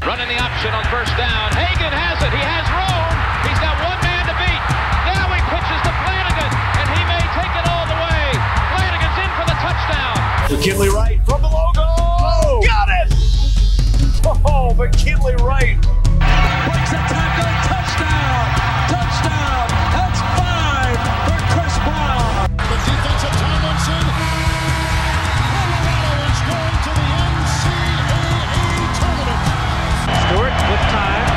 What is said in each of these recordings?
Running the option on first down. Hagan has it. He has room. He's got one man to beat. Now he pitches to Flanagan, and he may take it all the way. Flanagan's in for the touchdown. McKinley Wright from the logo. Oh, got it! Oh, McKinley Wright. Breaks a tackle. Touchdown. Touchdown. That's 5 for Chris Brown. The defense of Tomlinson. Colorado is going to the NCAA tournament. Stewart with time.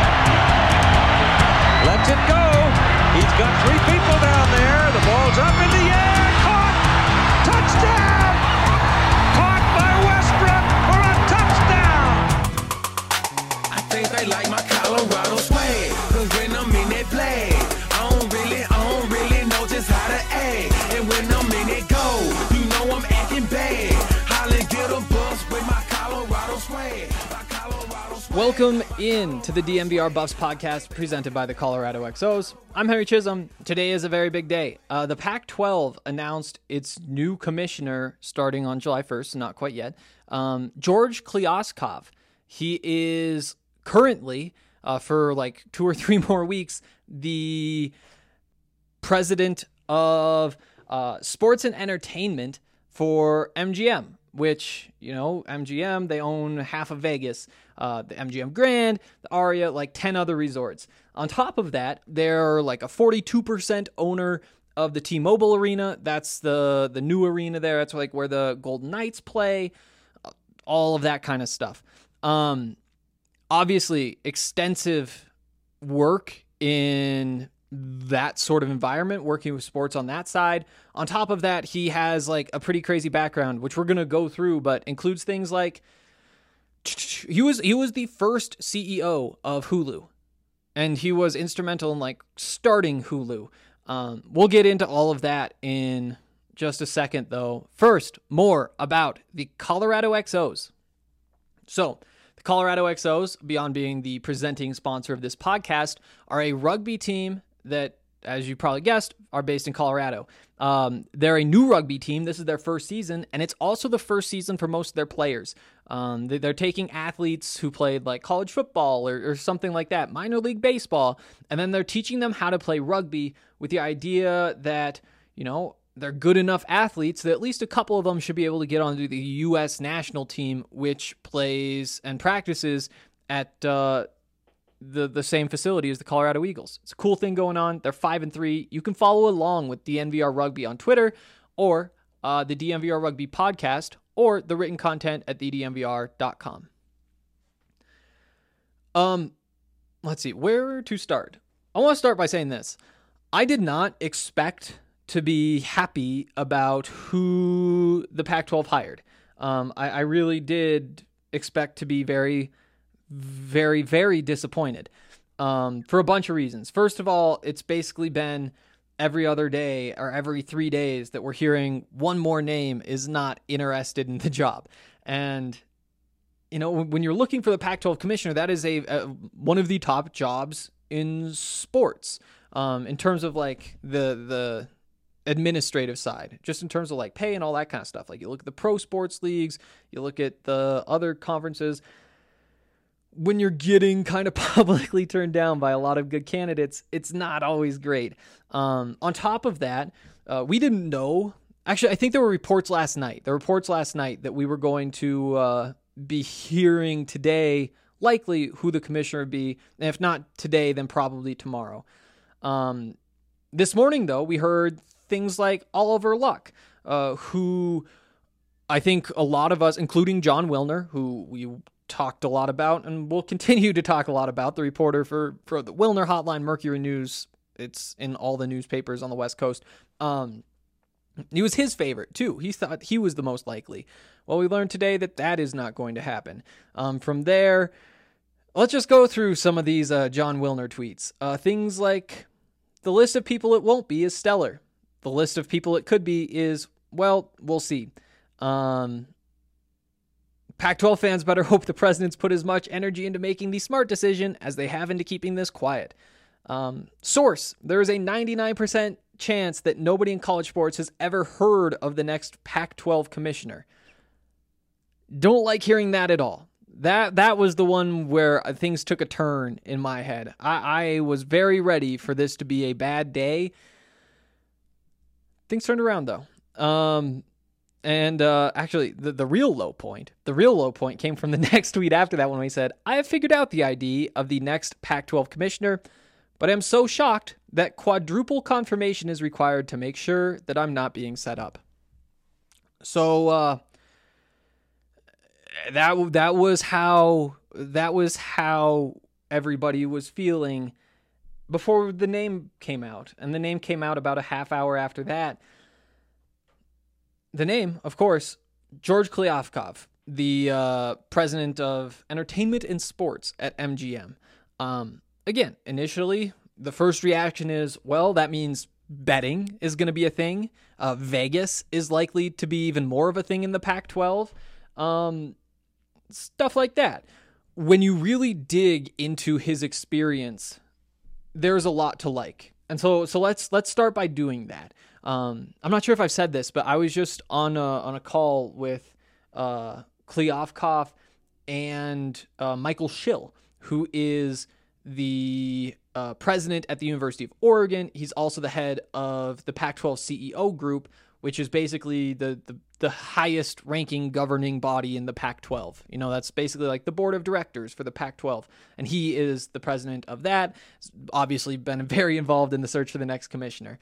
Lets it go. He's got 3 people down there. The ball's up in the air. Caught. Touchdown. Caught by Westbrook for a touchdown. I think they like my Colorado swag. Cause when I'm in that play, I don't really know just how to act. And when I'm in it go, you know I'm acting bad. Holly get a bus with my Colorado swag. Welcome in to the DNVR Buffs podcast presented by the Colorado XOs. I'm Henry Chisholm. Today is a very big day. The Pac-12 announced its new commissioner starting on July 1st, not quite yet. George Kliavkoff. He is currently, for like 2 or 3 more weeks, the president of sports and entertainment for MGM, which, you know, MGM, they own half of Vegas, the MGM Grand, the Aria, like 10 other resorts. On top of that, they're like a 42% owner of the T-Mobile Arena. That's the new arena there. That's like where the Golden Knights play, all of that kind of stuff. Obviously, extensive work in that sort of environment, working with sports on that side. On top of that, he has like a pretty crazy background, which we're going to go through, but includes things like he was the first CEO of Hulu, and he was instrumental in like starting Hulu. We'll get into all of that in just a second, though. First, more about the Colorado XOs. So, the Colorado XOs, beyond being the presenting sponsor of this podcast, are a rugby team that, as you probably guessed, are based in Colorado. They're a new rugby team. This is their first season, and it's also the first season for most of their players. They're taking athletes who played like college football or something like that, minor league baseball, and then they're teaching them how to play rugby with the idea that, you know, they're good enough athletes that at least a couple of them should be able to get onto the U.S. national team, which plays and practices at the same facility as the Colorado Eagles. It's a cool thing going on. They're 5-3. You can follow along with DNVR Rugby on Twitter, or the DNVR Rugby podcast, or the written content at thednvr.com. Let's see, where to start? I want to start by saying this. I did not expect to be happy about who the Pac-12 hired. I really did expect to be very, very, very disappointed for a bunch of reasons. First of all, it's basically been every other day or every 3 days that we're hearing one more name is not interested in the job. And, you know, when you're looking for the Pac-12 commissioner, that is one of the top jobs in sports in terms of like the administrative side, just in terms of like pay and all that kind of stuff. Like you look at the pro sports leagues, you look at the other conferences. When you're getting kind of publicly turned down by a lot of good candidates, it's not always great. On top of that, we didn't know. Actually, I think there were reports last night. That we were going to be hearing today, likely who the commissioner would be. And if not today, then probably tomorrow. This morning, though, we heard things like Oliver Luck, who I think a lot of us, including John Wilner, who we talked a lot about and will continue to talk a lot about, the reporter for the Wilner Hotline, Mercury News. It's in all the newspapers on the West Coast. He was his favorite, too. He thought he was the most likely. Well, we learned today that is not going to happen. From there, let's just go through some of these John Wilner tweets. Things like, the list of people it won't be is stellar. The list of people it could be is, well, we'll see. Pac-12 fans better hope the president's put as much energy into making the smart decision as they have into keeping this quiet. Source, there is a 99% chance that nobody in college sports has ever heard of the next Pac-12 commissioner. Don't like hearing that at all. That was the one where things took a turn in my head. I was very ready for this to be a bad day. Things turned around though. Actually, the real low point came from the next tweet after that, when we said, I have figured out the ID of the next Pac-12 commissioner, but I'm so shocked that quadruple confirmation is required to make sure that I'm not being set up. So that was how everybody was feeling before the name came out, and the name came out about a half hour after that. The name, of course, George Kliavkoff, the president of entertainment and sports at MGM. Again, initially, the first reaction is, well, that means betting is going to be a thing. Vegas is likely to be even more of a thing in the Pac-12. Stuff like that. When you really dig into his experience, there's a lot to like. And so let's start by doing that. I'm not sure if I've said this, but I was just on a call with Kliavkoff and Michael Schill, who is the president at the University of Oregon. He's also the head of the Pac-12 CEO group, which is basically the highest ranking governing body in the Pac-12. You know, that's basically like the board of directors for the Pac-12. And he is the president of that. He's obviously been very involved in the search for the next commissioner.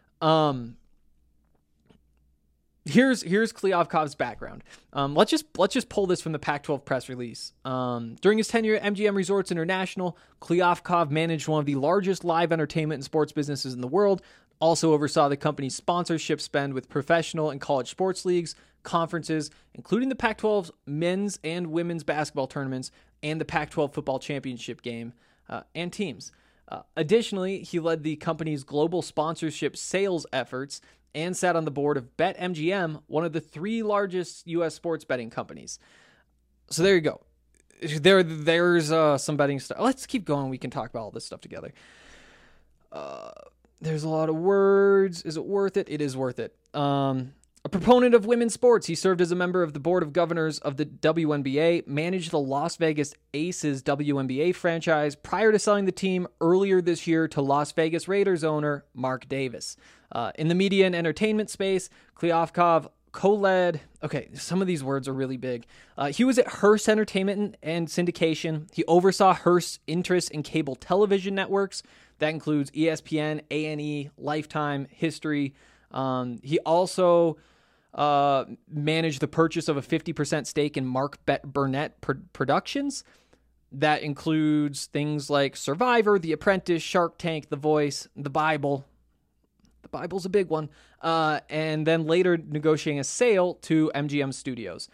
Here's Kliavkoff's background. Let's just pull this from the Pac-12 press release. During his tenure at MGM Resorts International, Kliavkoff managed one of the largest live entertainment and sports businesses in the world, also oversaw the company's sponsorship spend with professional and college sports leagues, conferences, including the Pac-12's men's and women's basketball tournaments and the Pac-12 football championship game and teams. Additionally, he led the company's global sponsorship sales efforts and sat on the board of BetMGM, one of the 3 largest U.S. sports betting companies. So there you go. There's some betting stuff. Let's keep going. We can talk about all this stuff together. There's a lot of words. Is it worth it? It is worth it. A proponent of women's sports, he served as a member of the board of governors of the WNBA, managed the Las Vegas Aces WNBA franchise prior to selling the team earlier this year to Las Vegas Raiders owner Mark Davis. In the media and entertainment space, Kliavkoff co-led... Okay, some of these words are really big. He was at Hearst Entertainment and Syndication. He oversaw Hearst's interest in cable television networks. That includes ESPN, A&E, Lifetime, History. He also managed the purchase of a 50% stake in Mark Burnett Productions. That includes things like Survivor, The Apprentice, Shark Tank, The Voice, The Bible. The Bible's a big one. And then later negotiating a sale to MGM Studios.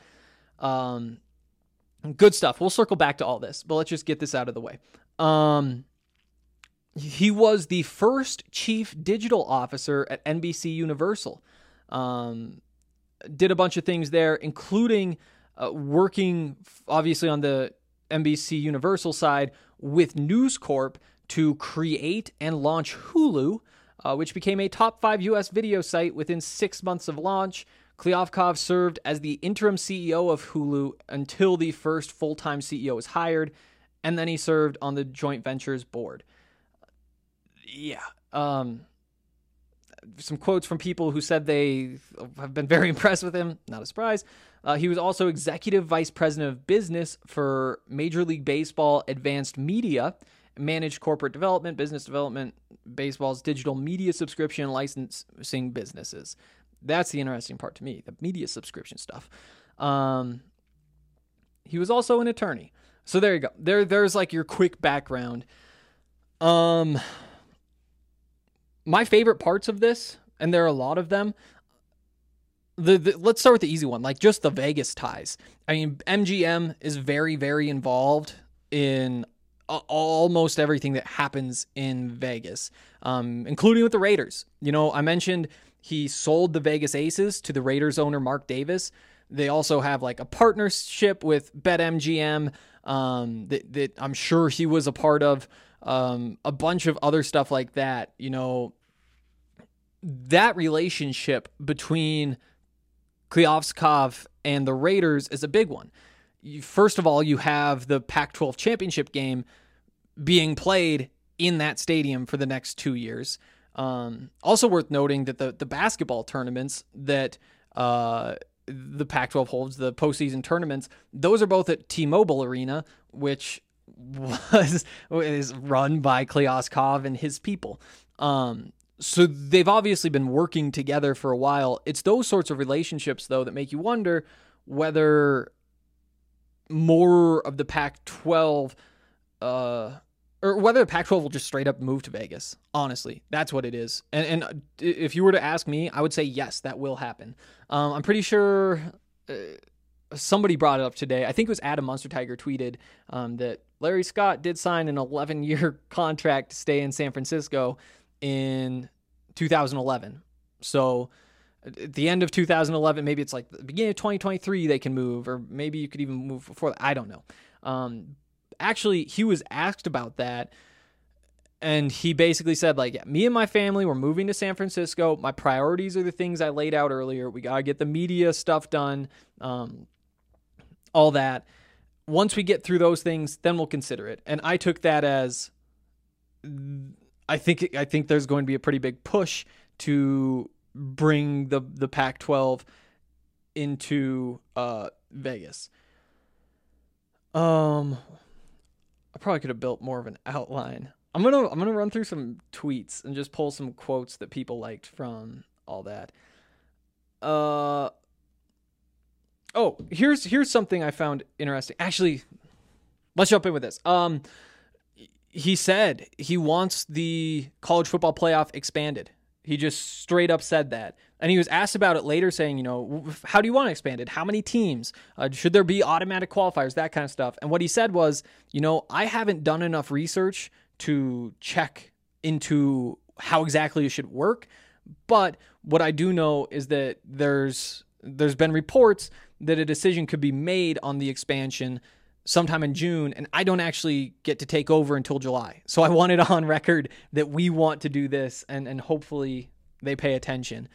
Good stuff. We'll circle back to all this, but let's just get this out of the way. He was the first chief digital officer at NBC Universal. Did a bunch of things there, including working, obviously, on the NBC Universal side with News Corp to create and launch Hulu, which became a top 5 U.S. video site within 6 months of launch. Kliavkoff served as the interim CEO of Hulu until the first full-time CEO was hired, and then he served on the joint ventures board. Yeah. Some quotes from people who said they have been very impressed with him. Not a surprise. He was also executive vice president of business for Major League Baseball Advanced Media, managed corporate development, business development, baseball's digital media subscription and licensing businesses. That's the interesting part to me, the media subscription stuff. He was also an attorney. So there you go. There's like your quick background. My favorite parts of this, and there are a lot of them, let's start with the easy one, like just the Vegas ties. I mean, MGM is very, very involved in almost everything that happens in Vegas, including with the Raiders. You know, I mentioned he sold the Vegas Aces to the Raiders owner, Mark Davis. They also have like a partnership with BetMGM that I'm sure he was a part of. A bunch of other stuff like that. You know, that relationship between Kliavkoff and the Raiders is a big one. first of all, you have the Pac-12 championship game being played in that stadium for the next 2 years. Also worth noting that the basketball tournaments that the Pac-12 holds, the postseason tournaments, those are both at T-Mobile Arena, which is run by Klyaskov and his people. So they've obviously been working together for a while. It's those sorts of relationships, though, that make you wonder whether more of the Pac-12, or whether the Pac-12 will just straight up move to Vegas. Honestly, that's what it is. And if you were to ask me, I would say yes, that will happen. I'm pretty sure somebody brought it up today. I think it was Adam Munstertiger tweeted that Larry Scott did sign an 11-year contract to stay in San Francisco in 2011. So at the end of 2011, maybe it's like the beginning of 2023 they can move, or maybe you could even move before that. I don't know. Actually, he was asked about that, and he basically said, like, yeah, me and my family, we're moving to San Francisco. My priorities are the things I laid out earlier. We got to get the media stuff done, all that. Once we get through those things, then we'll consider it. And I took that as, I think there's going to be a pretty big push to bring the Pac-12 into Vegas. I probably could have built more of an outline. I'm gonna run through some tweets and just pull some quotes that people liked from all that. Oh, here's something I found interesting. Actually, let's jump in with this. He said he wants the college football playoff expanded. He just straight up said that. And he was asked about it later, saying, how do you want it expanded? How many teams? Should there be automatic qualifiers? That kind of stuff. And what he said was, I haven't done enough research to check into how exactly it should work. But what I do know is that there's been reports that a decision could be made on the expansion sometime in June, and I don't actually get to take over until July. So I want it on record that we want to do this, and hopefully they pay attention.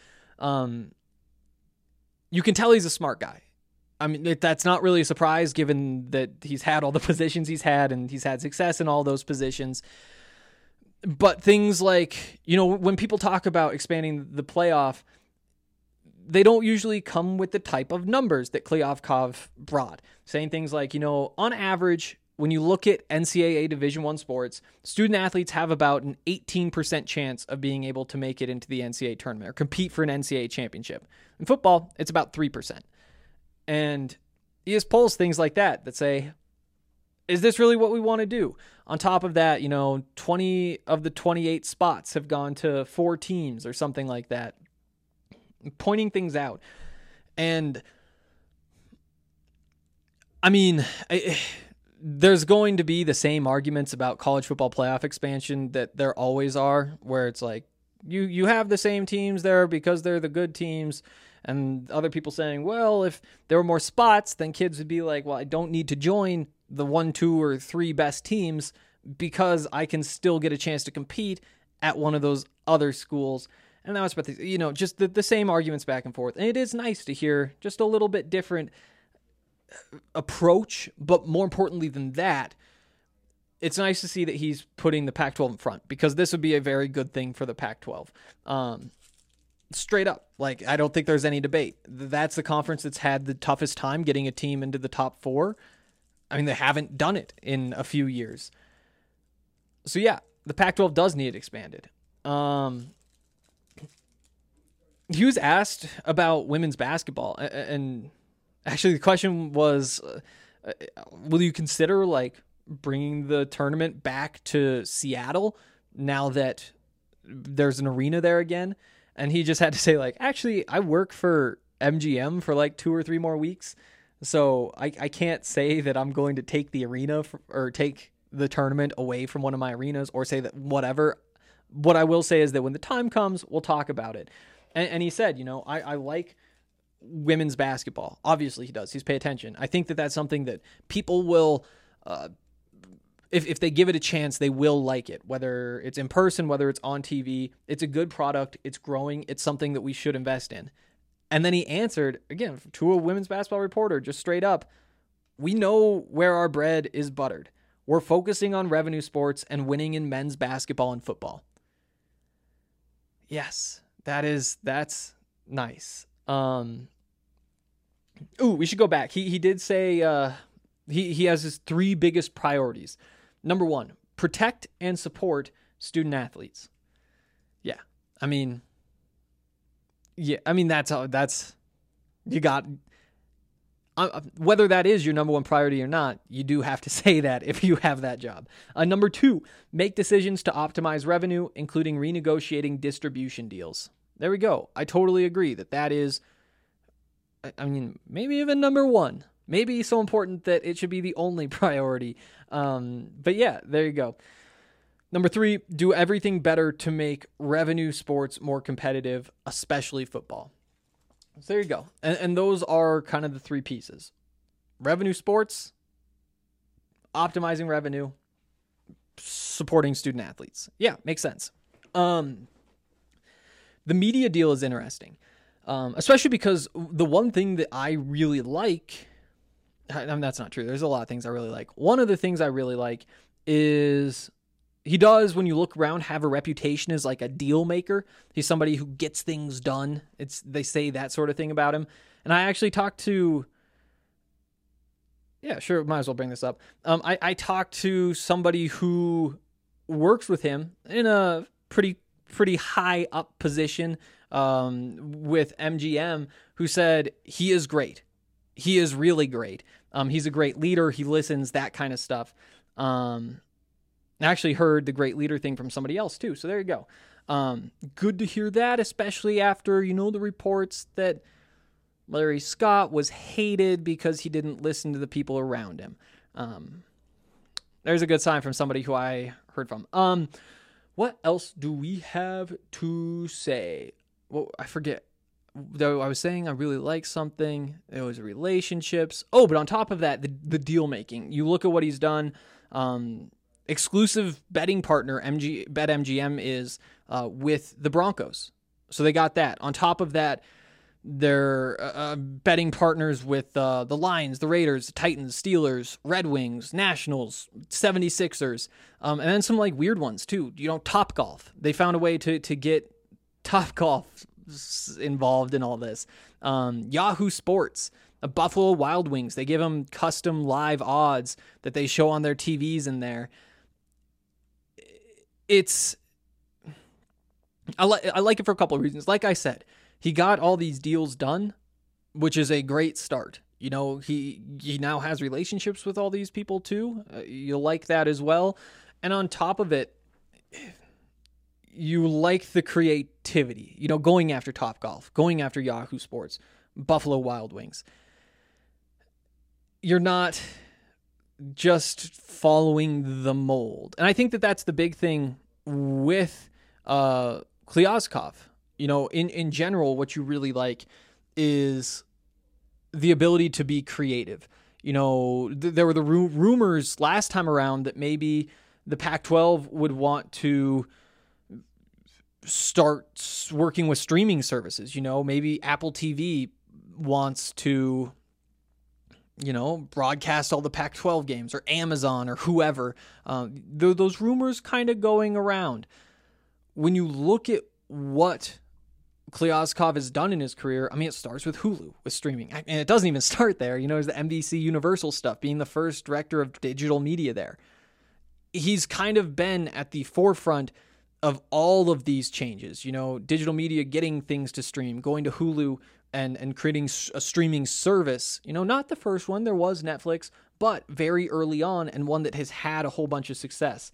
You can tell he's a smart guy. I mean, that's not really a surprise given that he's had all the positions he's had, and he's had success in all those positions. But things like, when people talk about expanding the playoff, they don't usually come with the type of numbers that Klyaskov brought, saying things like, on average, when you look at NCAA Division I sports, student athletes have about an 18% chance of being able to make it into the NCAA tournament or compete for an NCAA championship. In football, it's about 3%. And he just pulls things like that say, is this really what we want to do? On top of that, 20 of the 28 spots have gone to 4 teams or something like that, pointing things out. And I mean, there's going to be the same arguments about college football playoff expansion that there always are, where it's like you have the same teams there because they're the good teams, and other people saying, well, if there were more spots, then kids would be like, well, I don't need to join the 1, 2, or 3 best teams because I can still get a chance to compete at one of those other schools. And that was about just the same arguments back and forth. And it is nice to hear just a little bit different approach, but more importantly than that, it's nice to see that he's putting the Pac-12 in front, because this would be a very good thing for the Pac-12. Straight up, like, I don't think there's any debate. That's the conference that's had the toughest time getting a team into the top 4. I mean, they haven't done it in a few years. So yeah, the Pac-12 does need it expanded. He was asked about women's basketball, and actually the question was, will you consider bringing the tournament back to Seattle now that there's an arena there again? And he just had to say, actually, I work for MGM for 2 or 3 more weeks, so I can't say that I'm going to take the arena or take the tournament away from one of my arenas, or say that whatever. What I will say is that when the time comes, we'll talk about it. And he said, I like women's basketball. Obviously he does. He's pay attention. I think that that's something that people will, if they give it a chance, they will like it, whether it's in person, whether it's on TV. It's a good product. It's growing. It's something that we should invest in. And then he answered, again, to a women's basketball reporter, just straight up, We know where our bread is buttered. We're focusing on revenue sports and winning in men's basketball and football. Yes, that's nice. We should go back. He did say he has his 3 biggest priorities. Number 1, protect and support student athletes. Yeah. I mean, that's you got, whether that is your number 1 priority or not, you do have to say that if you have that job. Number 2, make decisions to optimize revenue, including renegotiating distribution deals. There we go. I totally agree that is, I mean, maybe even number 1. Maybe so important that it should be the only priority. But yeah, there you go. Number 3, do everything better to make revenue sports more competitive, especially football. So there you go. And those are kind of the 3 pieces. Revenue sports, optimizing revenue, supporting student athletes. Yeah, makes sense. The media deal is interesting, especially because the one thing that I really like, I mean, that's not true. There's a lot of things I really like. One of the things I really like is he does, when you look around, have a reputation as like a deal maker. He's somebody who gets things done. They say that sort of thing about him. And I actually talked to, yeah, sure, might as well bring this up. I talked to somebody who works with him in a pretty high up position with MGM, who said he is great. He is really great. He's a great leader. He listens, that kind of stuff. I actually heard the great leader thing from somebody else too. So there you go. Good to hear that, especially after, the reports that Larry Scott was hated because he didn't listen to the people around him. There's a good sign from somebody who I heard from. What else do we have to say? Well, I forget. Though I was saying I really like something. It was relationships. Oh, but on top of that, the deal making. You look at what he's done. Exclusive betting partner BetMGM is with the Broncos. So they got that. On top of that, they're betting partners with the Lions, the Raiders, the Titans, Steelers, Red Wings, Nationals, 76ers, and then some like weird ones too. Topgolf. They found a way to get Topgolf involved in all this. Yahoo Sports, Buffalo Wild Wings. They give them custom live odds that they show on their TVs in there. I like it for a couple of reasons. Like I said, he got all these deals done, which is a great start. He now has relationships with all these people too. You'll like that as well. And on top of it, you like the creativity, going after Topgolf, going after Yahoo Sports, Buffalo Wild Wings. You're not just following the mold. And I think that that's the big thing with Klyazkov. In general, what you really like is the ability to be creative. There were the rumors last time around that maybe the Pac-12 would want to start working with streaming services. Maybe Apple TV wants to, broadcast all the Pac-12 games, or Amazon or whoever. Those rumors kind of going around. When you look at what Klyazkov has done in his career, it starts with Hulu, with streaming. And it doesn't even start there. There's the NBC Universal stuff, being the first director of digital media there. He's kind of been at the forefront of all of these changes, digital media getting things to stream, going to Hulu and creating a streaming service. Not the first one, there was Netflix, but very early on, and one that has had a whole bunch of success.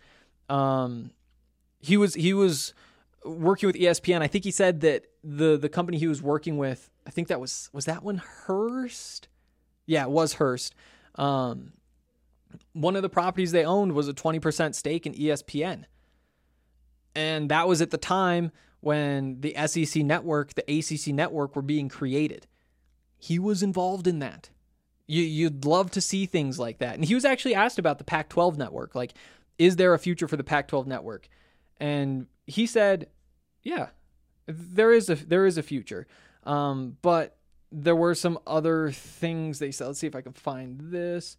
He was working with ESPN. I think he said that the company he was working with, I think that was that one Hearst? Yeah, it was Hearst. One of the properties they owned was a 20% stake in ESPN. And that was at the time when the SEC network, the ACC network were being created. He was involved in that. You'd love to see things like that. And he was actually asked about the Pac-12 network. Like, is there a future for the Pac-12 network? And he said, yeah, there is a future. But there were some other things they said. Let's see if I can find this.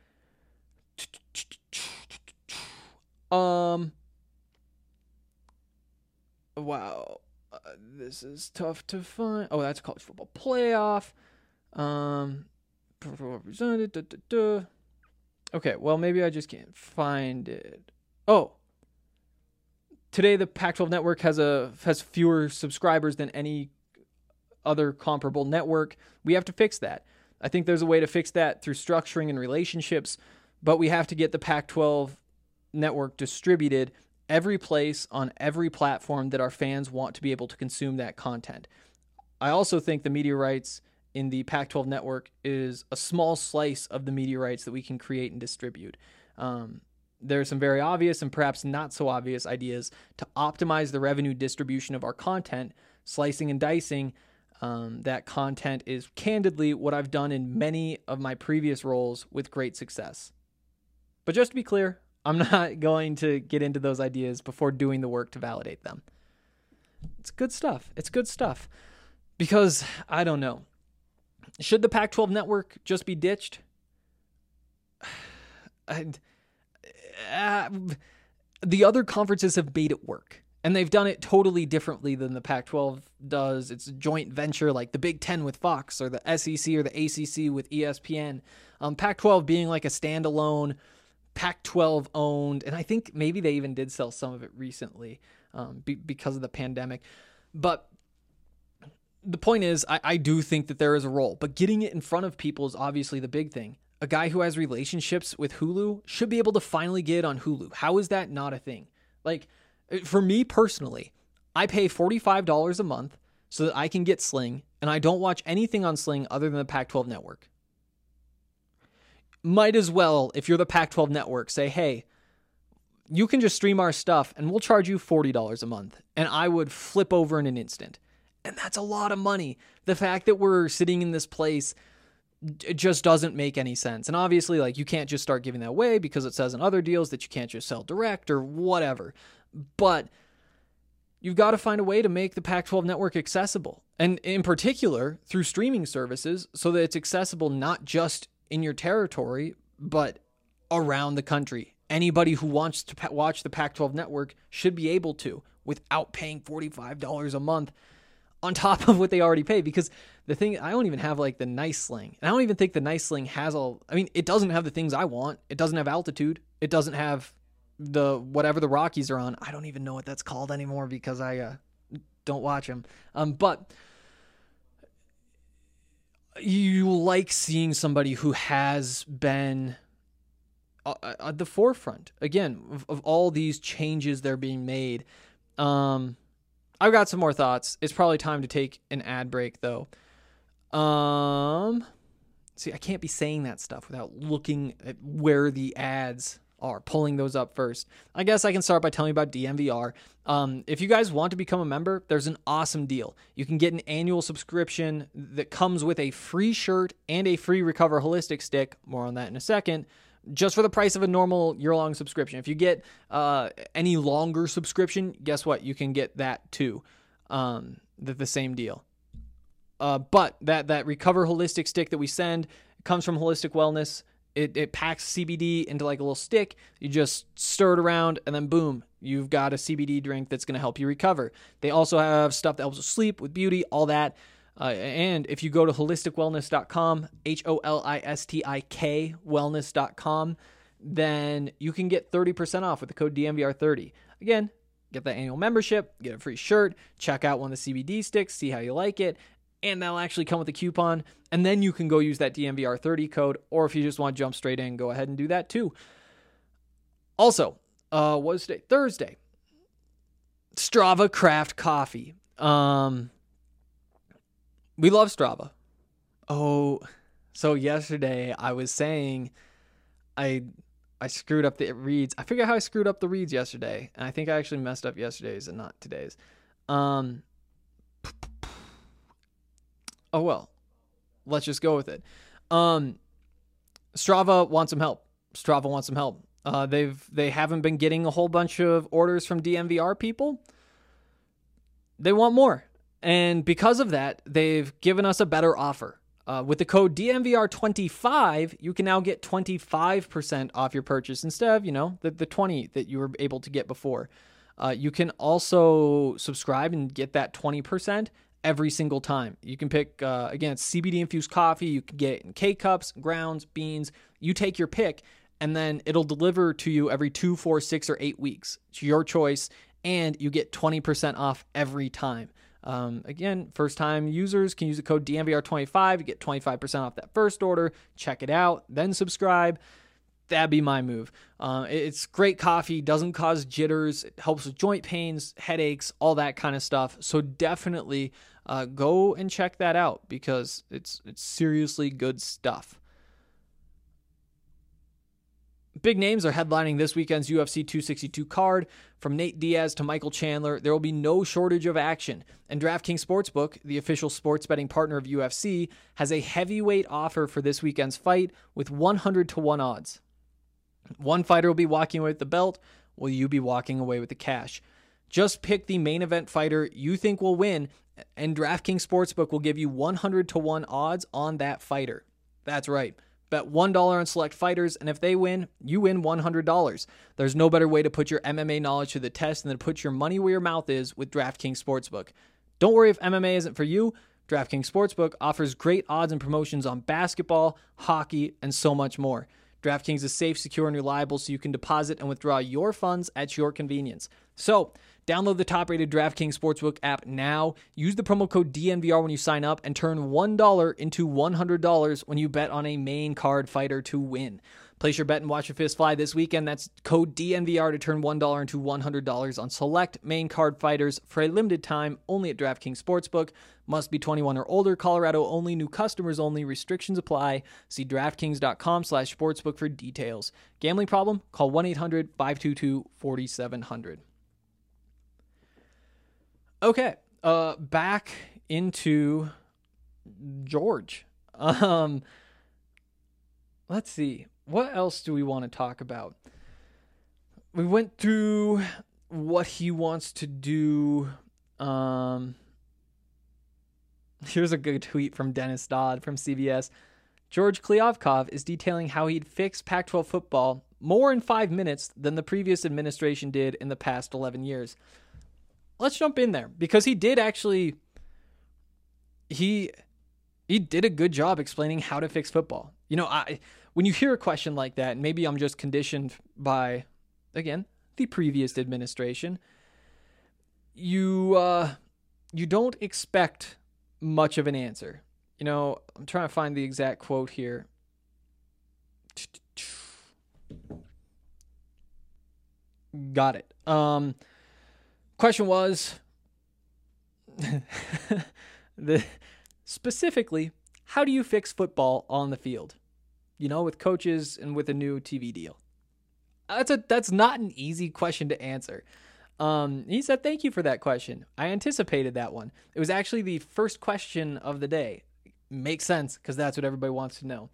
Wow. This is tough to find. Oh, that's college football playoff. Represented. Okay, well, maybe I just can't find it. Oh. Today, the Pac-12 network has fewer subscribers than any other comparable network. We have to fix that. I think there's a way to fix that through structuring and relationships, but we have to get the Pac-12 network distributed every place on every platform that our fans want to be able to consume that content. I also think the media rights in the Pac-12 network is a small slice of the media rights that we can create and distribute. There are some very obvious and perhaps not so obvious ideas to optimize the revenue distribution of our content. Slicing and dicing that content is candidly what I've done in many of my previous roles with great success. But just to be clear, I'm not going to get into those ideas before doing the work to validate them. It's good stuff. It's good stuff. Because, I don't know. Should the Pac-12 network just be ditched? The other conferences have made it work. And they've done it totally differently than the Pac-12 does. It's a joint venture like the Big Ten with Fox or the SEC or the ACC with ESPN. Pac-12 being like a standalone, Pac-12 owned, and I think maybe they even did sell some of it recently because of the pandemic. But the point is, I do think that there is a role, but getting it in front of people is obviously the big thing. A guy who has relationships with Hulu should be able to finally get on Hulu. How is that not a thing? Like, for me personally, I pay $45 a month so that I can get Sling, and I don't watch anything on Sling other than the Pac-12 network. Might as well, if you're the Pac-12 network, say, hey, you can just stream our stuff and we'll charge you $40 a month. And I would flip over in an instant. And that's a lot of money. The fact that we're sitting in this place, it just doesn't make any sense. And obviously, like, you can't just start giving that away because it says in other deals that you can't just sell direct or whatever. But you've got to find a way to make the Pac-12 network accessible. And in particular, through streaming services, so that it's accessible not just in your territory, but around the country. Anybody who wants to watch the Pac-12 network should be able to without paying $45 a month on top of what they already pay. Because the thing, I don't even have like the nice Sling. And I don't even think the nice Sling has it doesn't have the things I want. It doesn't have altitude. It doesn't have the whatever the Rockies are on. I don't even know what that's called anymore because I don't watch them. But you like seeing somebody who has been at the forefront, again, of all these changes that are being made. I've got some more thoughts. It's probably time to take an ad break, though. See, I can't be saying that stuff without looking at where the ads are, pulling those up first. I guess I can start by telling you about DNVR. If you guys want to become a member, there's an awesome deal. You can get an annual subscription that comes with a free shirt and a free Recover Holistic stick. More on that in a second. Just for the price of a normal year-long subscription. If you get any longer subscription, guess what? You can get that too. The same deal. But that Recover Holistic stick that we send comes from Holistic Wellness. It packs CBD into like a little stick. You just stir it around and then boom, you've got a CBD drink that's going to help you recover. They also have stuff that helps with sleep, with beauty, all that. And if you go to holisticwellness.com, HOLISTIK wellness.com, then you can get 30% off with the code DNVR30. Again, get that annual membership, get a free shirt, check out one of the CBD sticks, see how you like it, and that'll actually come with a coupon, and then you can go use that DNVR30 code, or if you just want to jump straight in, go ahead and do that too. Also, what was today? Thursday. Strava Craft Coffee. We love Strava. Oh, so yesterday I was saying I screwed up the reads. I figured out how I screwed up the reads yesterday, and I think I actually messed up yesterday's and not today's. Oh well, let's just go with it. Strava wants some help. They haven't been getting a whole bunch of orders from DNVR people. They want more. And because of that, they've given us a better offer. With the code DNVR25, you can now get 25% off your purchase instead of, the 20 that you were able to get before. You can also subscribe and get that 20% every single time. You can pick, again, it's CBD infused coffee. You can get it in K-cups, grounds, beans. You take your pick, and then it'll deliver to you every 2, 4, 6, or 8 weeks. It's your choice, and you get 20% off every time. Again, first-time users can use the code DNVR25. You get 25% off that first order. Check it out, then subscribe. That'd be my move. It's great coffee, doesn't cause jitters, it helps with joint pains, headaches, all that kind of stuff. So definitely go and check that out because it's seriously good stuff. Big names are headlining this weekend's UFC 262 card. From Nate Diaz to Michael Chandler, there will be no shortage of action. And DraftKings Sportsbook, the official sports betting partner of UFC, has a heavyweight offer for this weekend's fight with 100-1 odds. One fighter will be walking away with the belt, while you be walking away with the cash. Just pick the main event fighter you think will win, and DraftKings Sportsbook will give you 100-1 odds on that fighter. That's right. Bet $1 on select fighters, and if they win, you win $100. There's no better way to put your MMA knowledge to the test than to put your money where your mouth is with DraftKings Sportsbook. Don't worry if MMA isn't for you. DraftKings Sportsbook offers great odds and promotions on basketball, hockey, and so much more. DraftKings is safe, secure, and reliable so you can deposit and withdraw your funds at your convenience. So, download the top-rated DraftKings Sportsbook app now. Use the promo code DNVR when you sign up and turn $1 into $100 when you bet on a main card fighter to win. Place your bet and watch your fist fly this weekend. That's code DNVR to turn $1 into $100 on select main card fighters for a limited time only at DraftKings Sportsbook. Must be 21 or older. Colorado only. New customers only. Restrictions apply. See DraftKings.com/sportsbook for details. Gambling problem? Call 1-800-522-4700. Okay, back into George. Let's see. What else do we want to talk about? We went through what he wants to do. Here's a good tweet from Dennis Dodd from CBS. George Kliavkov is detailing how he'd fix Pac-12 football more in 5 minutes than the previous administration did in the past 11 years. Let's jump in there because he did actually, he did a good job explaining how to fix football. When you hear a question like that, and maybe I'm just conditioned by, again, the previous administration, you don't expect much of an answer. I'm trying to find the exact quote here. Got it. Question was, specifically, how do you fix football on the field? With coaches and with a new TV deal. That's not an easy question to answer. He said, thank you for that question. I anticipated that one. It was actually the first question of the day. Makes sense because that's what everybody wants to know.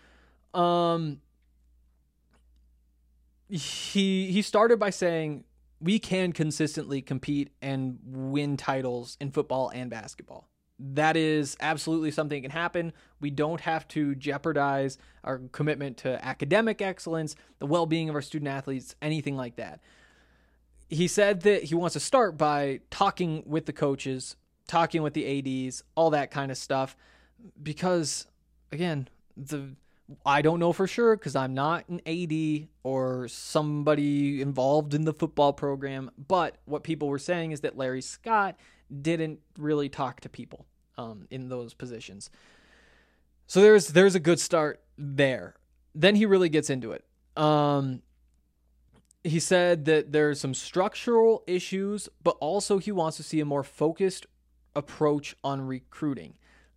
He started by saying, we can consistently compete and win titles in football and basketball. That is absolutely something that can happen. We don't have to jeopardize our commitment to academic excellence, the well-being of our student athletes, anything like that. He said that he wants to start by talking with the coaches, talking with the ADs, all that kind of stuff, because, again, I don't know for sure because I'm not an AD or somebody involved in the football program, but what people were saying is that Larry Scott didn't really talk to people in those positions. So there's a good start there. Then he really gets into it. He said that there's some structural issues, but also he wants to see a more focused approach on recruiting.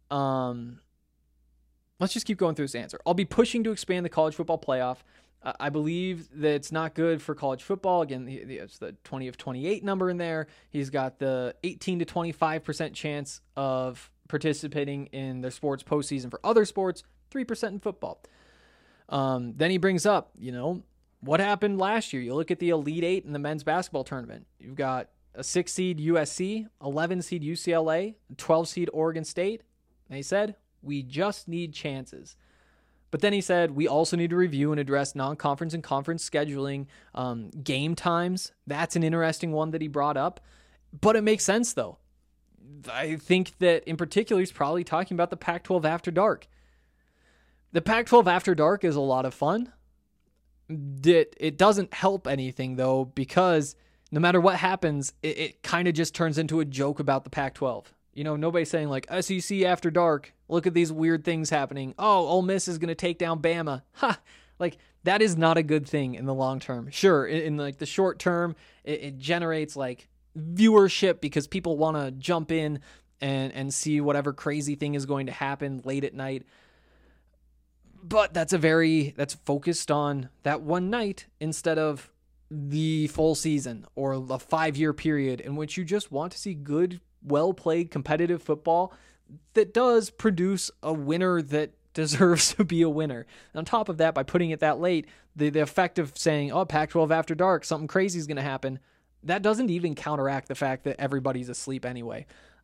Let's just keep going through this answer. I'll be pushing to expand the college football playoff. I believe that it's not good for college football. Again, it's the 20 of 28 number in there. He's got the 18 to 25% chance of participating in their sports postseason for other sports, 3% in football. Then he brings up, what happened last year? You look at the Elite Eight in the men's basketball tournament. You've got a 6 seed USC, 11 seed UCLA, 12 seed Oregon State. And he said, we just need chances. But then he said, we also need to review and address non-conference and conference scheduling, game times. That's an interesting one that he brought up. But it makes sense, though. I think that in particular, he's probably talking about the Pac-12 After Dark. The Pac-12 After Dark is a lot of fun. It doesn't help anything, though, because no matter what happens, it kind of just turns into a joke about the Pac-12. You know, nobody's saying like SEC After Dark. Look at these weird things happening. Oh, Ole Miss is going to take down Bama. Ha! Like, that is not a good thing in the long term. Sure, in like the short term, it generates like viewership because people want to jump in and see whatever crazy thing is going to happen late at night. But that's focused on that one night instead of the full season or a 5-year period in which you just want to see good, well-played, competitive football that does produce a winner that deserves to be a winner. And on top of that, by putting it that late, the effect of saying, oh, Pac-12 After Dark, something crazy is going to happen, that doesn't even counteract the fact that everybody's asleep anyway.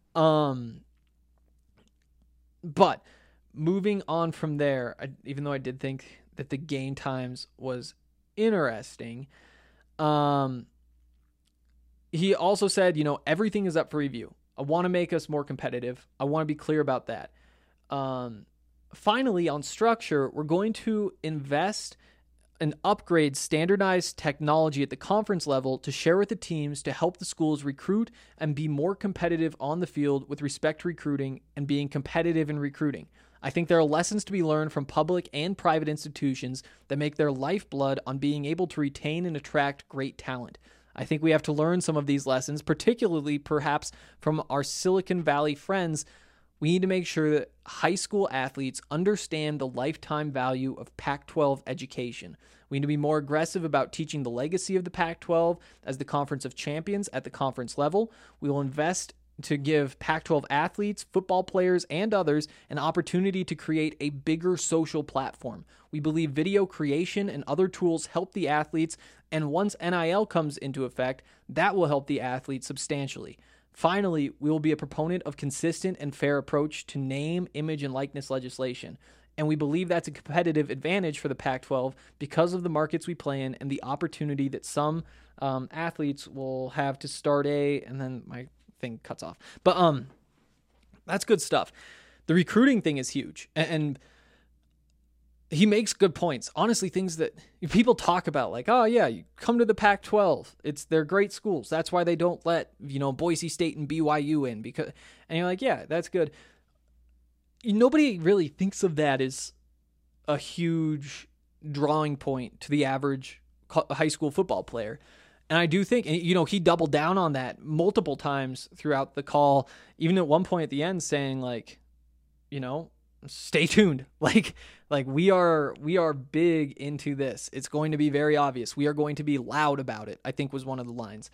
But moving on from there, even though I did think that the game times was interesting, he also said, everything is up for review. I want to make us more competitive. I want to be clear about that. Finally, on structure, we're going to invest and upgrade standardized technology at the conference level to share with the teams to help the schools recruit and be more competitive on the field with respect to recruiting and being competitive in recruiting. I think there are lessons to be learned from public and private institutions that make their lifeblood on being able to retain and attract great talent. I think we have to learn some of these lessons, particularly perhaps from our Silicon Valley friends. We need to make sure that high school athletes understand the lifetime value of Pac-12 education. We need to be more aggressive about teaching the legacy of the Pac-12 as the Conference of Champions at the conference level. We will invest to give Pac-12 athletes, football players, and others an opportunity to create a bigger social platform. We believe video creation and other tools help the athletes, and once NIL comes into effect, that will help the athletes substantially. Finally, we will be a proponent of consistent and fair approach to name, image, and likeness legislation. And we believe that's a competitive advantage for the Pac-12 because of the markets we play in and the opportunity that some athletes will have to start and then my thing cuts off. But that's good stuff. The recruiting thing is huge. And he makes good points. Honestly, things that people talk about, like, oh yeah, you come to the Pac-12. They're great schools. That's why they don't let, Boise State and BYU in and you're like, yeah, that's good. Nobody really thinks of that as a huge drawing point to the average high school football player. And I do think, he doubled down on that multiple times throughout the call, even at one point at the end saying like, stay tuned. Like we are big into this. It's going to be very obvious. We are going to be loud about it, I think was one of the lines.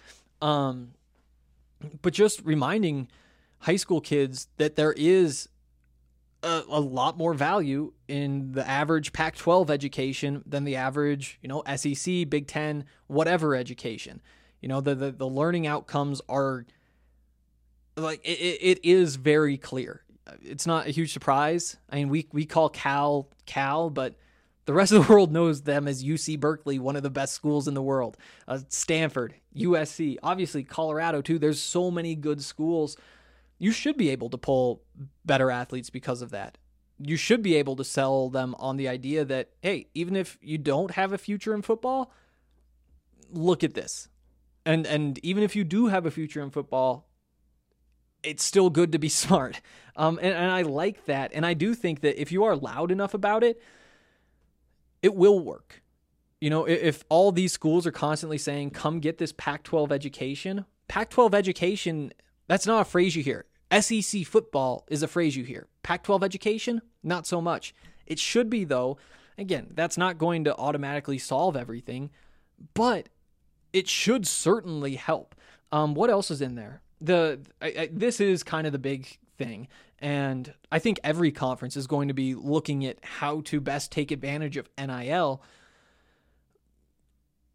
But just reminding high school kids that there is a lot more value in the average Pac-12 education than the average, SEC, Big Ten, whatever education. The learning outcomes are like, it is very clear. It's not a huge surprise. I mean, we call Cal, but the rest of the world knows them as UC Berkeley, one of the best schools in the world. Stanford, USC, obviously Colorado too. There's so many good schools. You should be able to pull better athletes because of that. You should be able to sell them on the idea that, hey, even if you don't have a future in football, look at this. And even if you do have a future in football, it's still good to be smart. And I like that. And I do think that if you are loud enough about it, it will work. If all these schools are constantly saying, come get this Pac-12 education, that's not a phrase you hear. SEC football is a phrase you hear. Pac-12 education, not so much. It should be, though. Again, that's not going to automatically solve everything, but it should certainly help. What else is in there? This is kind of the big thing, and I think every conference is going to be looking at how to best take advantage of NIL.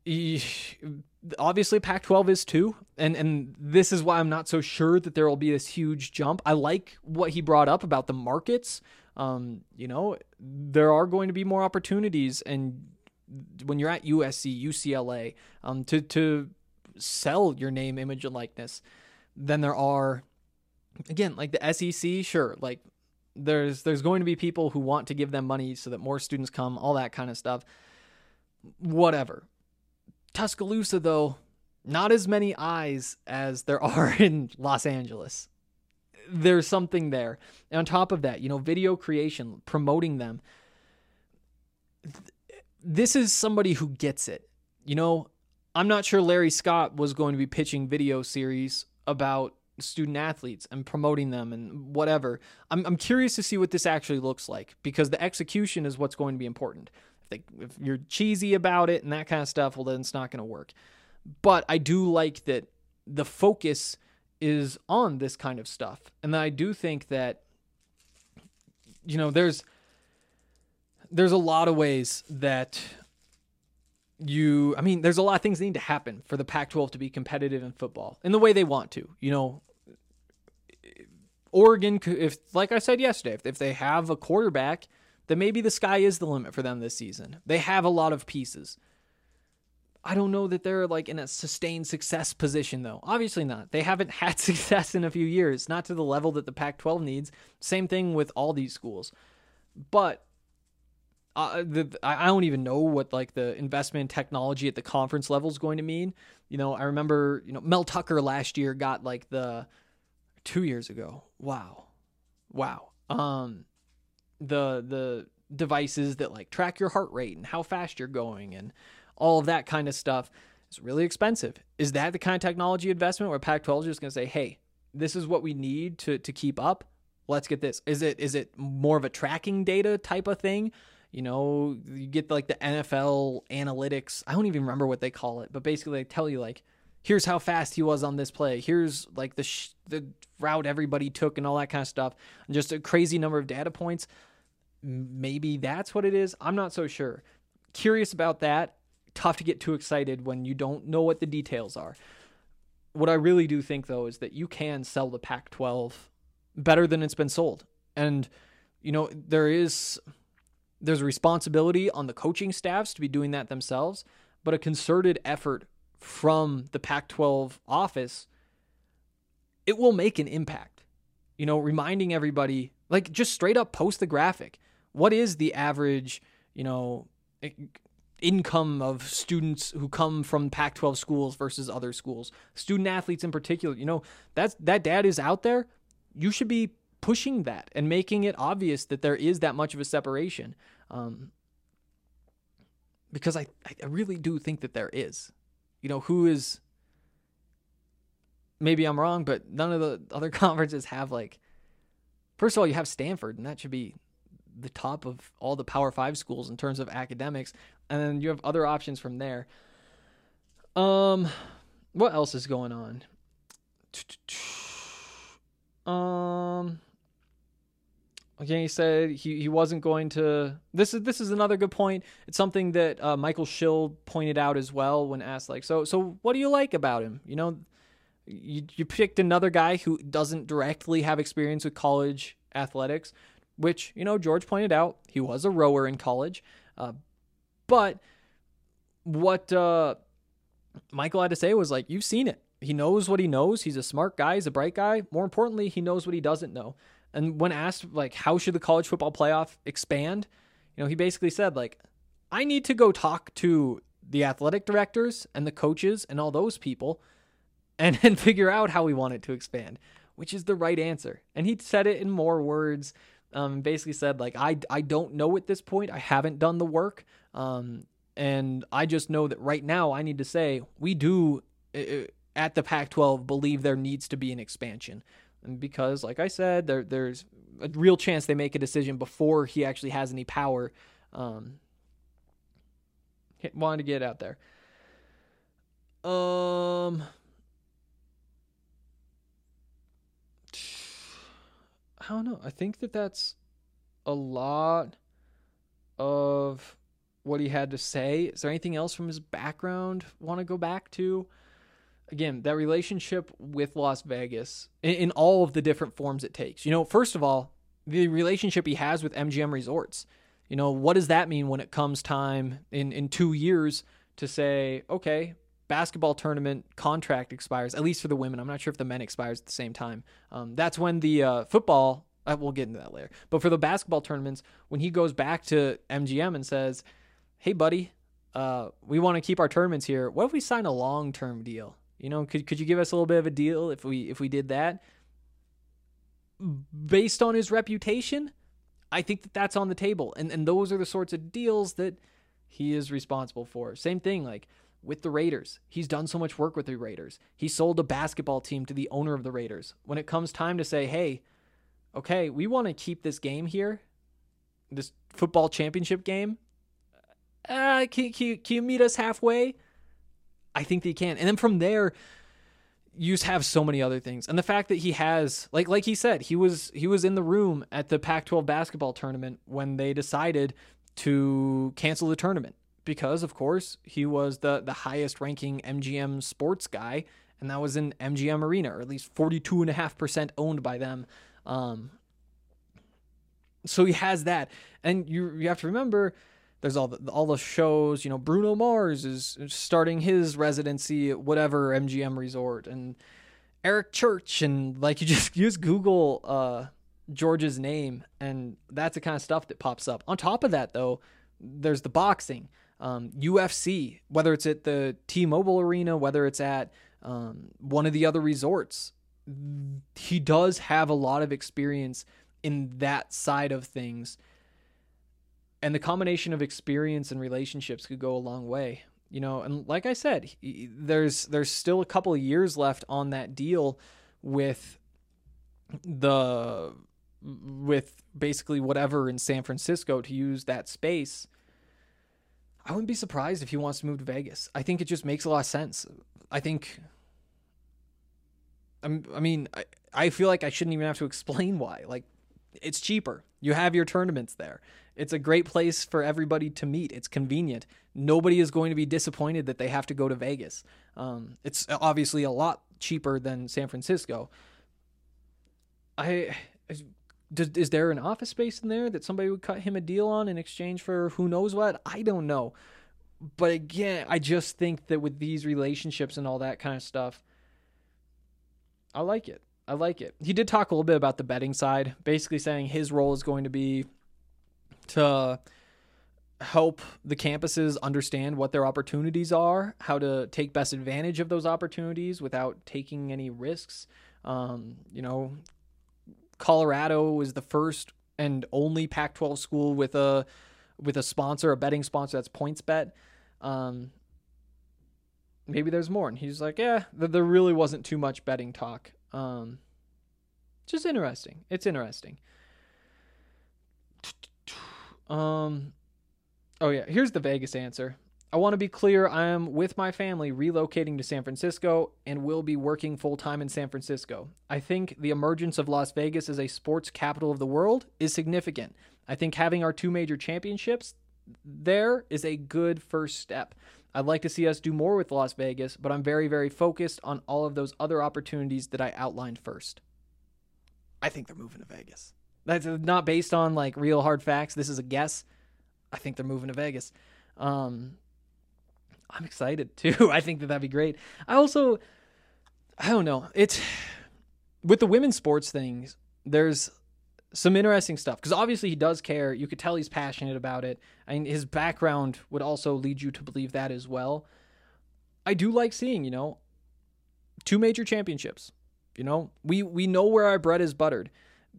obviously Pac-12 is too, and this is why I'm not so sure that there will be this huge jump. I like what he brought up about the markets. There are going to be more opportunities, and when you're at USC, UCLA, to sell your name, image, and likeness, than there are, again, like the SEC. Sure, like there's going to be people who want to give them money so that more students come, all that kind of stuff. Whatever. Tuscaloosa, though, not as many eyes as there are in Los Angeles. There's something there. And on top of that, video creation, promoting them. This is somebody who gets it. I'm not sure Larry Scott was going to be pitching video series about student athletes and promoting them and whatever. I'm curious to see what this actually looks like, because the execution is what's going to be important. If you're cheesy about it and that kind of stuff, well, then it's not going to work. But I do like that the focus is on this kind of stuff. And I do think that, there's a lot of ways that there's a lot of things that need to happen for the Pac-12 to be competitive in football in the way they want to. Oregon, if, like I said yesterday, if they have a quarterback, then maybe the sky is the limit for them this season. They have a lot of pieces. I don't know that they're like in a sustained success position, though. Obviously not. They haven't had success in a few years, not to the level that the Pac-12 needs. Same thing with all these schools. But I don't even know what like the investment in technology at the conference level is going to mean. I remember, Mel Tucker last year got like 2 years ago. Wow. The devices that like track your heart rate and how fast you're going and all of that kind of stuff is really expensive. Is that the kind of technology investment where Pac-12 is just going to say, hey, this is what we need to keep up? Let's get this. Is it more of a tracking data type of thing? You get like the NFL analytics. I don't even remember what they call it, but basically they tell you like, here's how fast he was on this play. Here's like the route everybody took and all that kind of stuff. And just a crazy number of data points. Maybe that's what it is. I'm not so sure. Curious about that. Tough to get too excited when you don't know what the details are. What I really do think, though, is that you can sell the Pac-12 better than it's been sold. And, there's a responsibility on the coaching staffs to be doing that themselves, but a concerted effort from the Pac-12 office, it will make an impact. Reminding everybody, like just straight up post the graphic. What is the average, income of students who come from Pac-12 schools versus other schools? Student athletes in particular, that data is out there. You should be pushing that and making it obvious that there is that much of a separation. Because I really do think that there is. Who is, maybe I'm wrong, but none of the other conferences have like, first of all, you have Stanford, and that should be the top of all the Power 5 schools in terms of academics. And then you have other options from there. What else is going on? Again, he said he wasn't going to. This is another good point. It's something that Michael Schill pointed out as well when asked, like, so what do you like about him? You picked another guy who doesn't directly have experience with college athletics, which George pointed out he was a rower in college. But what Michael had to say was like, you've seen it. He knows what he knows. He's a smart guy. He's a bright guy. More importantly, he knows what he doesn't know. And when asked, like, how should the college football playoff expand? He basically said, like, I need to go talk to the athletic directors and the coaches and all those people and figure out how we want it to expand, which is the right answer. And he said it in more words, basically said, like, I don't know at this point. I haven't done the work. And I just know that right now I need to say we do at the Pac-12 believe there needs to be an expansion. And because, like I said, there's a real chance they make a decision before he actually has any power. Wanted to get it out there. I don't know. I think that's a lot of what he had to say. Is there anything else from his background want to go back to? Again, that relationship with Las Vegas in all of the different forms it takes. First of all, the relationship he has with MGM Resorts. What does that mean when it comes time in 2 years to say, okay, basketball tournament contract expires, at least for the women. I'm not sure if the men expires at the same time. That's when the football, we'll get into that later. But for the basketball tournaments, when he goes back to MGM and says, hey, buddy, we want to keep our tournaments here. What if we sign a long-term deal? Could you give us a little bit of a deal if we did that? Based on his reputation, I think that's on the table. And those are the sorts of deals that he is responsible for. Same thing, like with the Raiders. He's done so much work with the Raiders. He sold a basketball team to the owner of the Raiders. When it comes time to say, hey, okay, we want to keep this game here, this football championship game, can you meet us halfway? I think they can. And then from there, you just have so many other things. And the fact that he has, like he said, he was in the room at the Pac-12 basketball tournament when they decided to cancel the tournament because, of course, he was the highest ranking MGM sports guy, and that was in MGM Arena, or at least 42.5% owned by them. So he has that. And you have to remember, there's all the shows, Bruno Mars is starting his residency at whatever MGM resort, and Eric Church, and like you just Google George's name, and that's the kind of stuff that pops up. On top of that, though, there's the boxing, UFC, whether it's at the T-Mobile Arena, whether it's at one of the other resorts. He does have a lot of experience in that side of things. And the combination of experience and relationships could go a long way, and like I said, there's still a couple of years left on that deal with basically whatever in San Francisco to use that space. I wouldn't be surprised if he wants to move to Vegas. I think it just makes a lot of sense. I feel like I shouldn't even have to explain why. Like, it's cheaper. You have your tournaments there. It's a great place for everybody to meet. It's convenient. Nobody is going to be disappointed that they have to go to Vegas. It's obviously a lot cheaper than San Francisco. Is there an office space in there that somebody would cut him a deal on in exchange for who knows what? I don't know. But again, I just think that with these relationships and all that kind of stuff, I like it. He did talk a little bit about the betting side, basically saying his role is going to be to help the campuses understand what their opportunities are, how to take best advantage of those opportunities without taking any risks. Colorado is the first and only Pac-12 school with a sponsor, a betting sponsor, that's PointsBet. Maybe there's more. And he's like, yeah, there really wasn't too much betting talk. Just interesting. It's interesting. Oh yeah, here's the Vegas answer. I want to be clear, I am with my family relocating to San Francisco and will be working full-time in San Francisco. I think the emergence of Las Vegas as a sports capital of the world is significant. I think having our 2 major championships there is a good first step. I'd like to see us do more with Las Vegas, but I'm very, very focused on all of those other opportunities that I outlined first. I think they're moving to Vegas. That's not based on like real hard facts. This is a guess. I think they're moving to Vegas. I'm excited too. I think that'd be great. I don't know. It's with the women's sports things, there's some interesting stuff because obviously he does care. You could tell he's passionate about it. I mean, his background would also lead you to believe that as well. I do like seeing, 2 major championships. We know where our bread is buttered.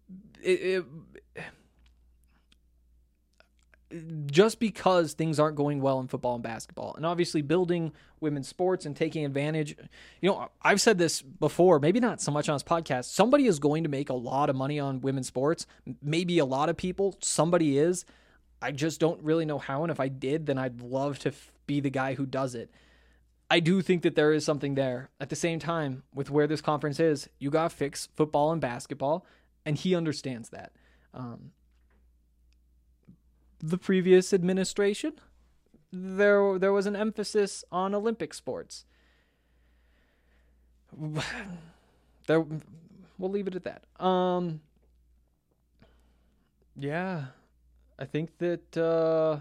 Just because things aren't going well in football and basketball, and obviously building women's sports and taking advantage. I've said this before, maybe not so much on this podcast. Somebody is going to make a lot of money on women's sports. Maybe a lot of people. Somebody is. I just don't really know how, and if I did, then I'd love to be the guy who does it. I do think that there is something there. At the same time, with where this conference is, you got to fix football and basketball, and he understands that. The previous administration, there was an emphasis on Olympic sports. There, we'll leave it at that. Yeah, I think that there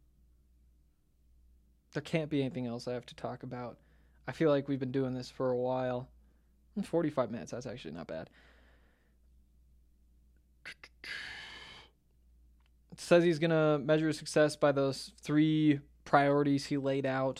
can't be anything else I have to talk about. I feel like we've been doing this for a while. 45 minutes, that's actually not bad. It says he's going to measure success by those 3 priorities he laid out.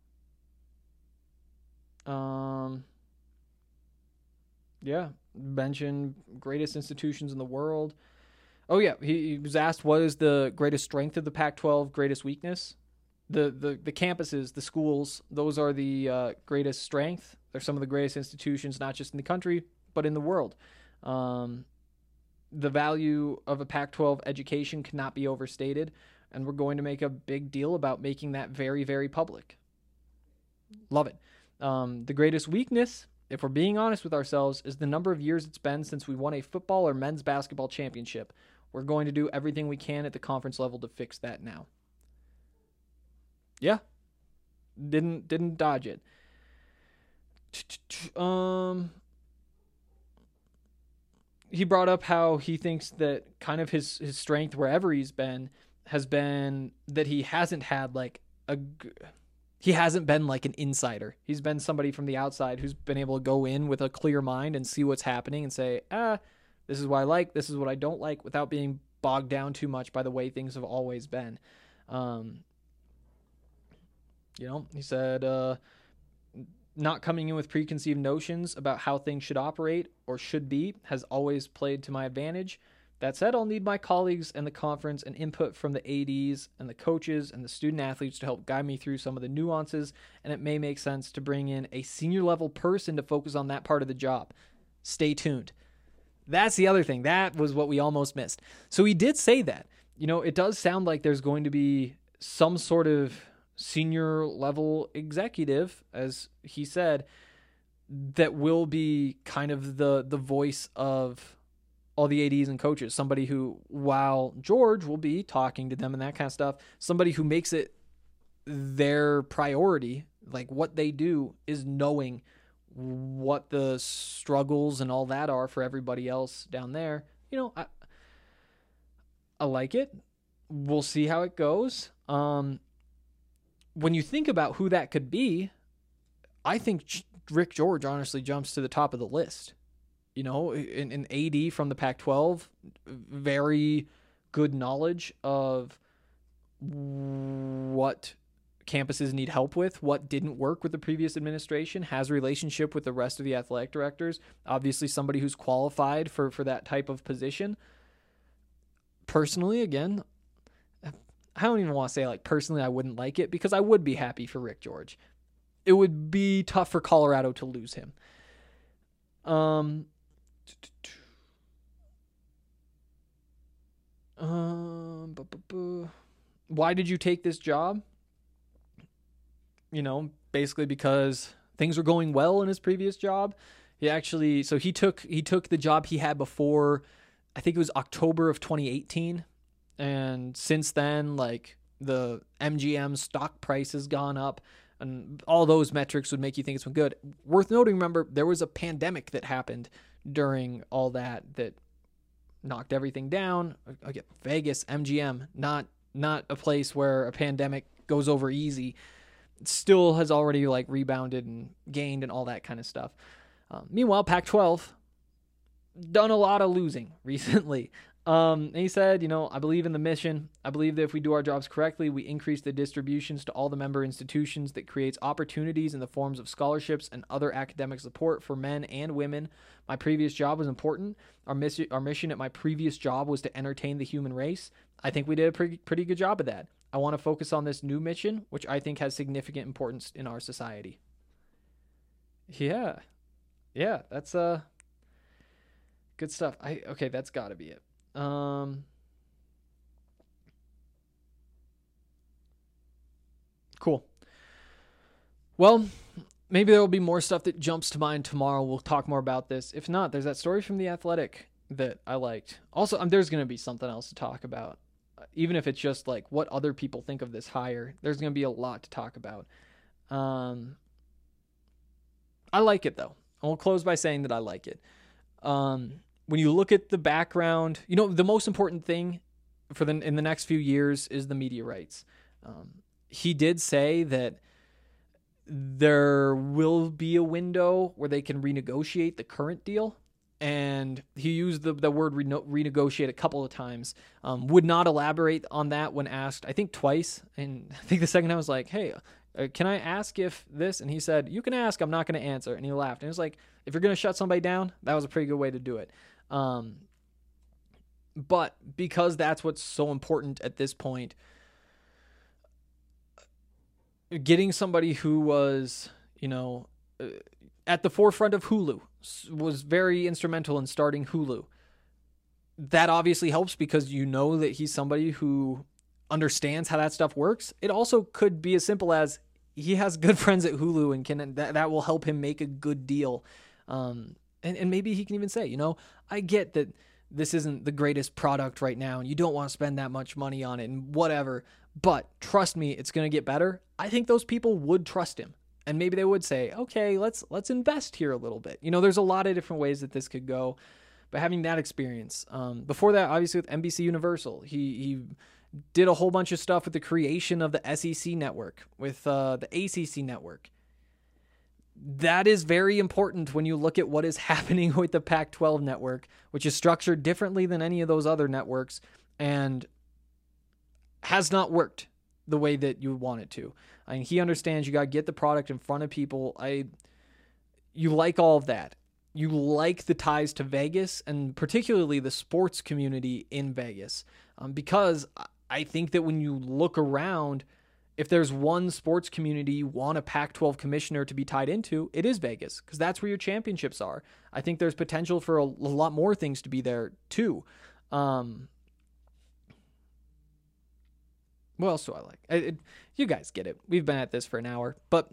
Yeah, mention greatest institutions in the world. Oh yeah, he was asked what is the greatest strength of the Pac-12, greatest weakness. The campuses, the schools, those are the greatest strength. They're some of the greatest institutions, not just in the country, but in the world. The value of a Pac-12 education cannot be overstated, and we're going to make a big deal about making that very, very public. Love it. The greatest weakness, if we're being honest with ourselves, is the number of years it's been since we won a football or men's basketball championship. We're going to do everything we can at the conference level to fix that now. Yeah. Didn't dodge it. He brought up how he thinks that kind of his strength wherever he's been has been that he hasn't had like he hasn't been like an insider. He's been somebody from the outside who's been able to go in with a clear mind and see what's happening and say, this is what I like, this is what I don't like, without being bogged down too much by the way things have always been. He said, not coming in with preconceived notions about how things should operate or should be has always played to my advantage. That said, I'll need my colleagues and the conference and input from the ADs and the coaches and the student athletes to help guide me through some of the nuances, and it may make sense to bring in a senior level person to focus on that part of the job. Stay tuned. That's the other thing. That was what we almost missed. So he did say that. It does sound like there's going to be some sort of senior level executive, as he said, that will be kind of the voice of all the ADs and coaches. Somebody who, while George will be talking to them and that kind of stuff, somebody who makes it their priority, like what they do is knowing what the struggles and all that are for everybody else down there. I like it. We'll see how it goes. When you think about who that could be, I think Rick George honestly jumps to the top of the list. An AD from the Pac-12, very good knowledge of what campuses need help with, what didn't work with the previous administration, has a relationship with the rest of the athletic directors, obviously somebody who's qualified for that type of position. Personally, again, I don't even want to say personally I wouldn't like it, because I would be happy for Rick George. It would be tough for Colorado to lose him. Why did you take this job? Basically because things were going well in his previous job. He took the job he had before, I think it was October of 2018. And since then, the MGM stock price has gone up, and all those metrics would make you think it's been good. Worth noting, remember, there was a pandemic that happened during all that knocked everything down. Again, Vegas, MGM, not a place where a pandemic goes over easy. It still has already rebounded and gained and all that kind of stuff. Meanwhile, Pac-12 done a lot of losing recently. And he said, I believe in the mission. I believe that if we do our jobs correctly, we increase the distributions to all the member institutions that creates opportunities in the forms of scholarships and other academic support for men and women. My previous job was important. Our mission at my previous job was to entertain the human race. I think we did a pretty good job of that. I want to focus on this new mission, which I think has significant importance in our society. Yeah, that's good stuff. Okay, that's got to be it. Cool. Well, maybe there will be more stuff that jumps to mind tomorrow. We'll talk more about this. If not, there's that story from The Athletic that I liked. Also, there's going to be something else to talk about. even if it's just like what other people think of this hire. There's going to be a lot to talk about. I like it, though. I will close by saying that I like it. When you look at the background, the most important thing in the next few years is the media rights. He did say that there will be a window where they can renegotiate the current deal. And he used the word renegotiate a couple of times. Would not elaborate on that when asked, I think twice. And I think the second time was like, hey, can I ask if this? And he said, you can ask, I'm not going to answer. And he laughed. And it was like, if you're going to shut somebody down, that was a pretty good way to do it. But because that's what's so important at this point, getting somebody who was, at the forefront of Hulu, was very instrumental in starting Hulu. That obviously helps because that he's somebody who understands how that stuff works. It also could be as simple as he has good friends at Hulu and that will help him make a good deal. And maybe he can even say, I get that this isn't the greatest product right now and you don't want to spend that much money on it and whatever, but trust me, it's going to get better. I think those people would trust him. And maybe they would say, okay, let's invest here a little bit. There's a lot of different ways that this could go. But having that experience, before that, obviously with NBC Universal, he did a whole bunch of stuff with the creation of the SEC network, with the ACC network. That is very important when you look at what is happening with the Pac-12 network, which is structured differently than any of those other networks and has not worked the way that you want it to. I mean, he understands you got to get the product in front of people. You like all of that. You like the ties to Vegas and particularly the sports community in Vegas, because I think that when you look around, if there's one sports community you want a Pac-12 commissioner to be tied into, it is Vegas, because that's where your championships are. I think there's potential for a lot more things to be there too. What else do I like? You guys get it. We've been at this for an hour, but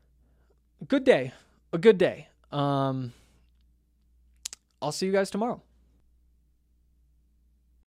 a good day. I'll see you guys tomorrow.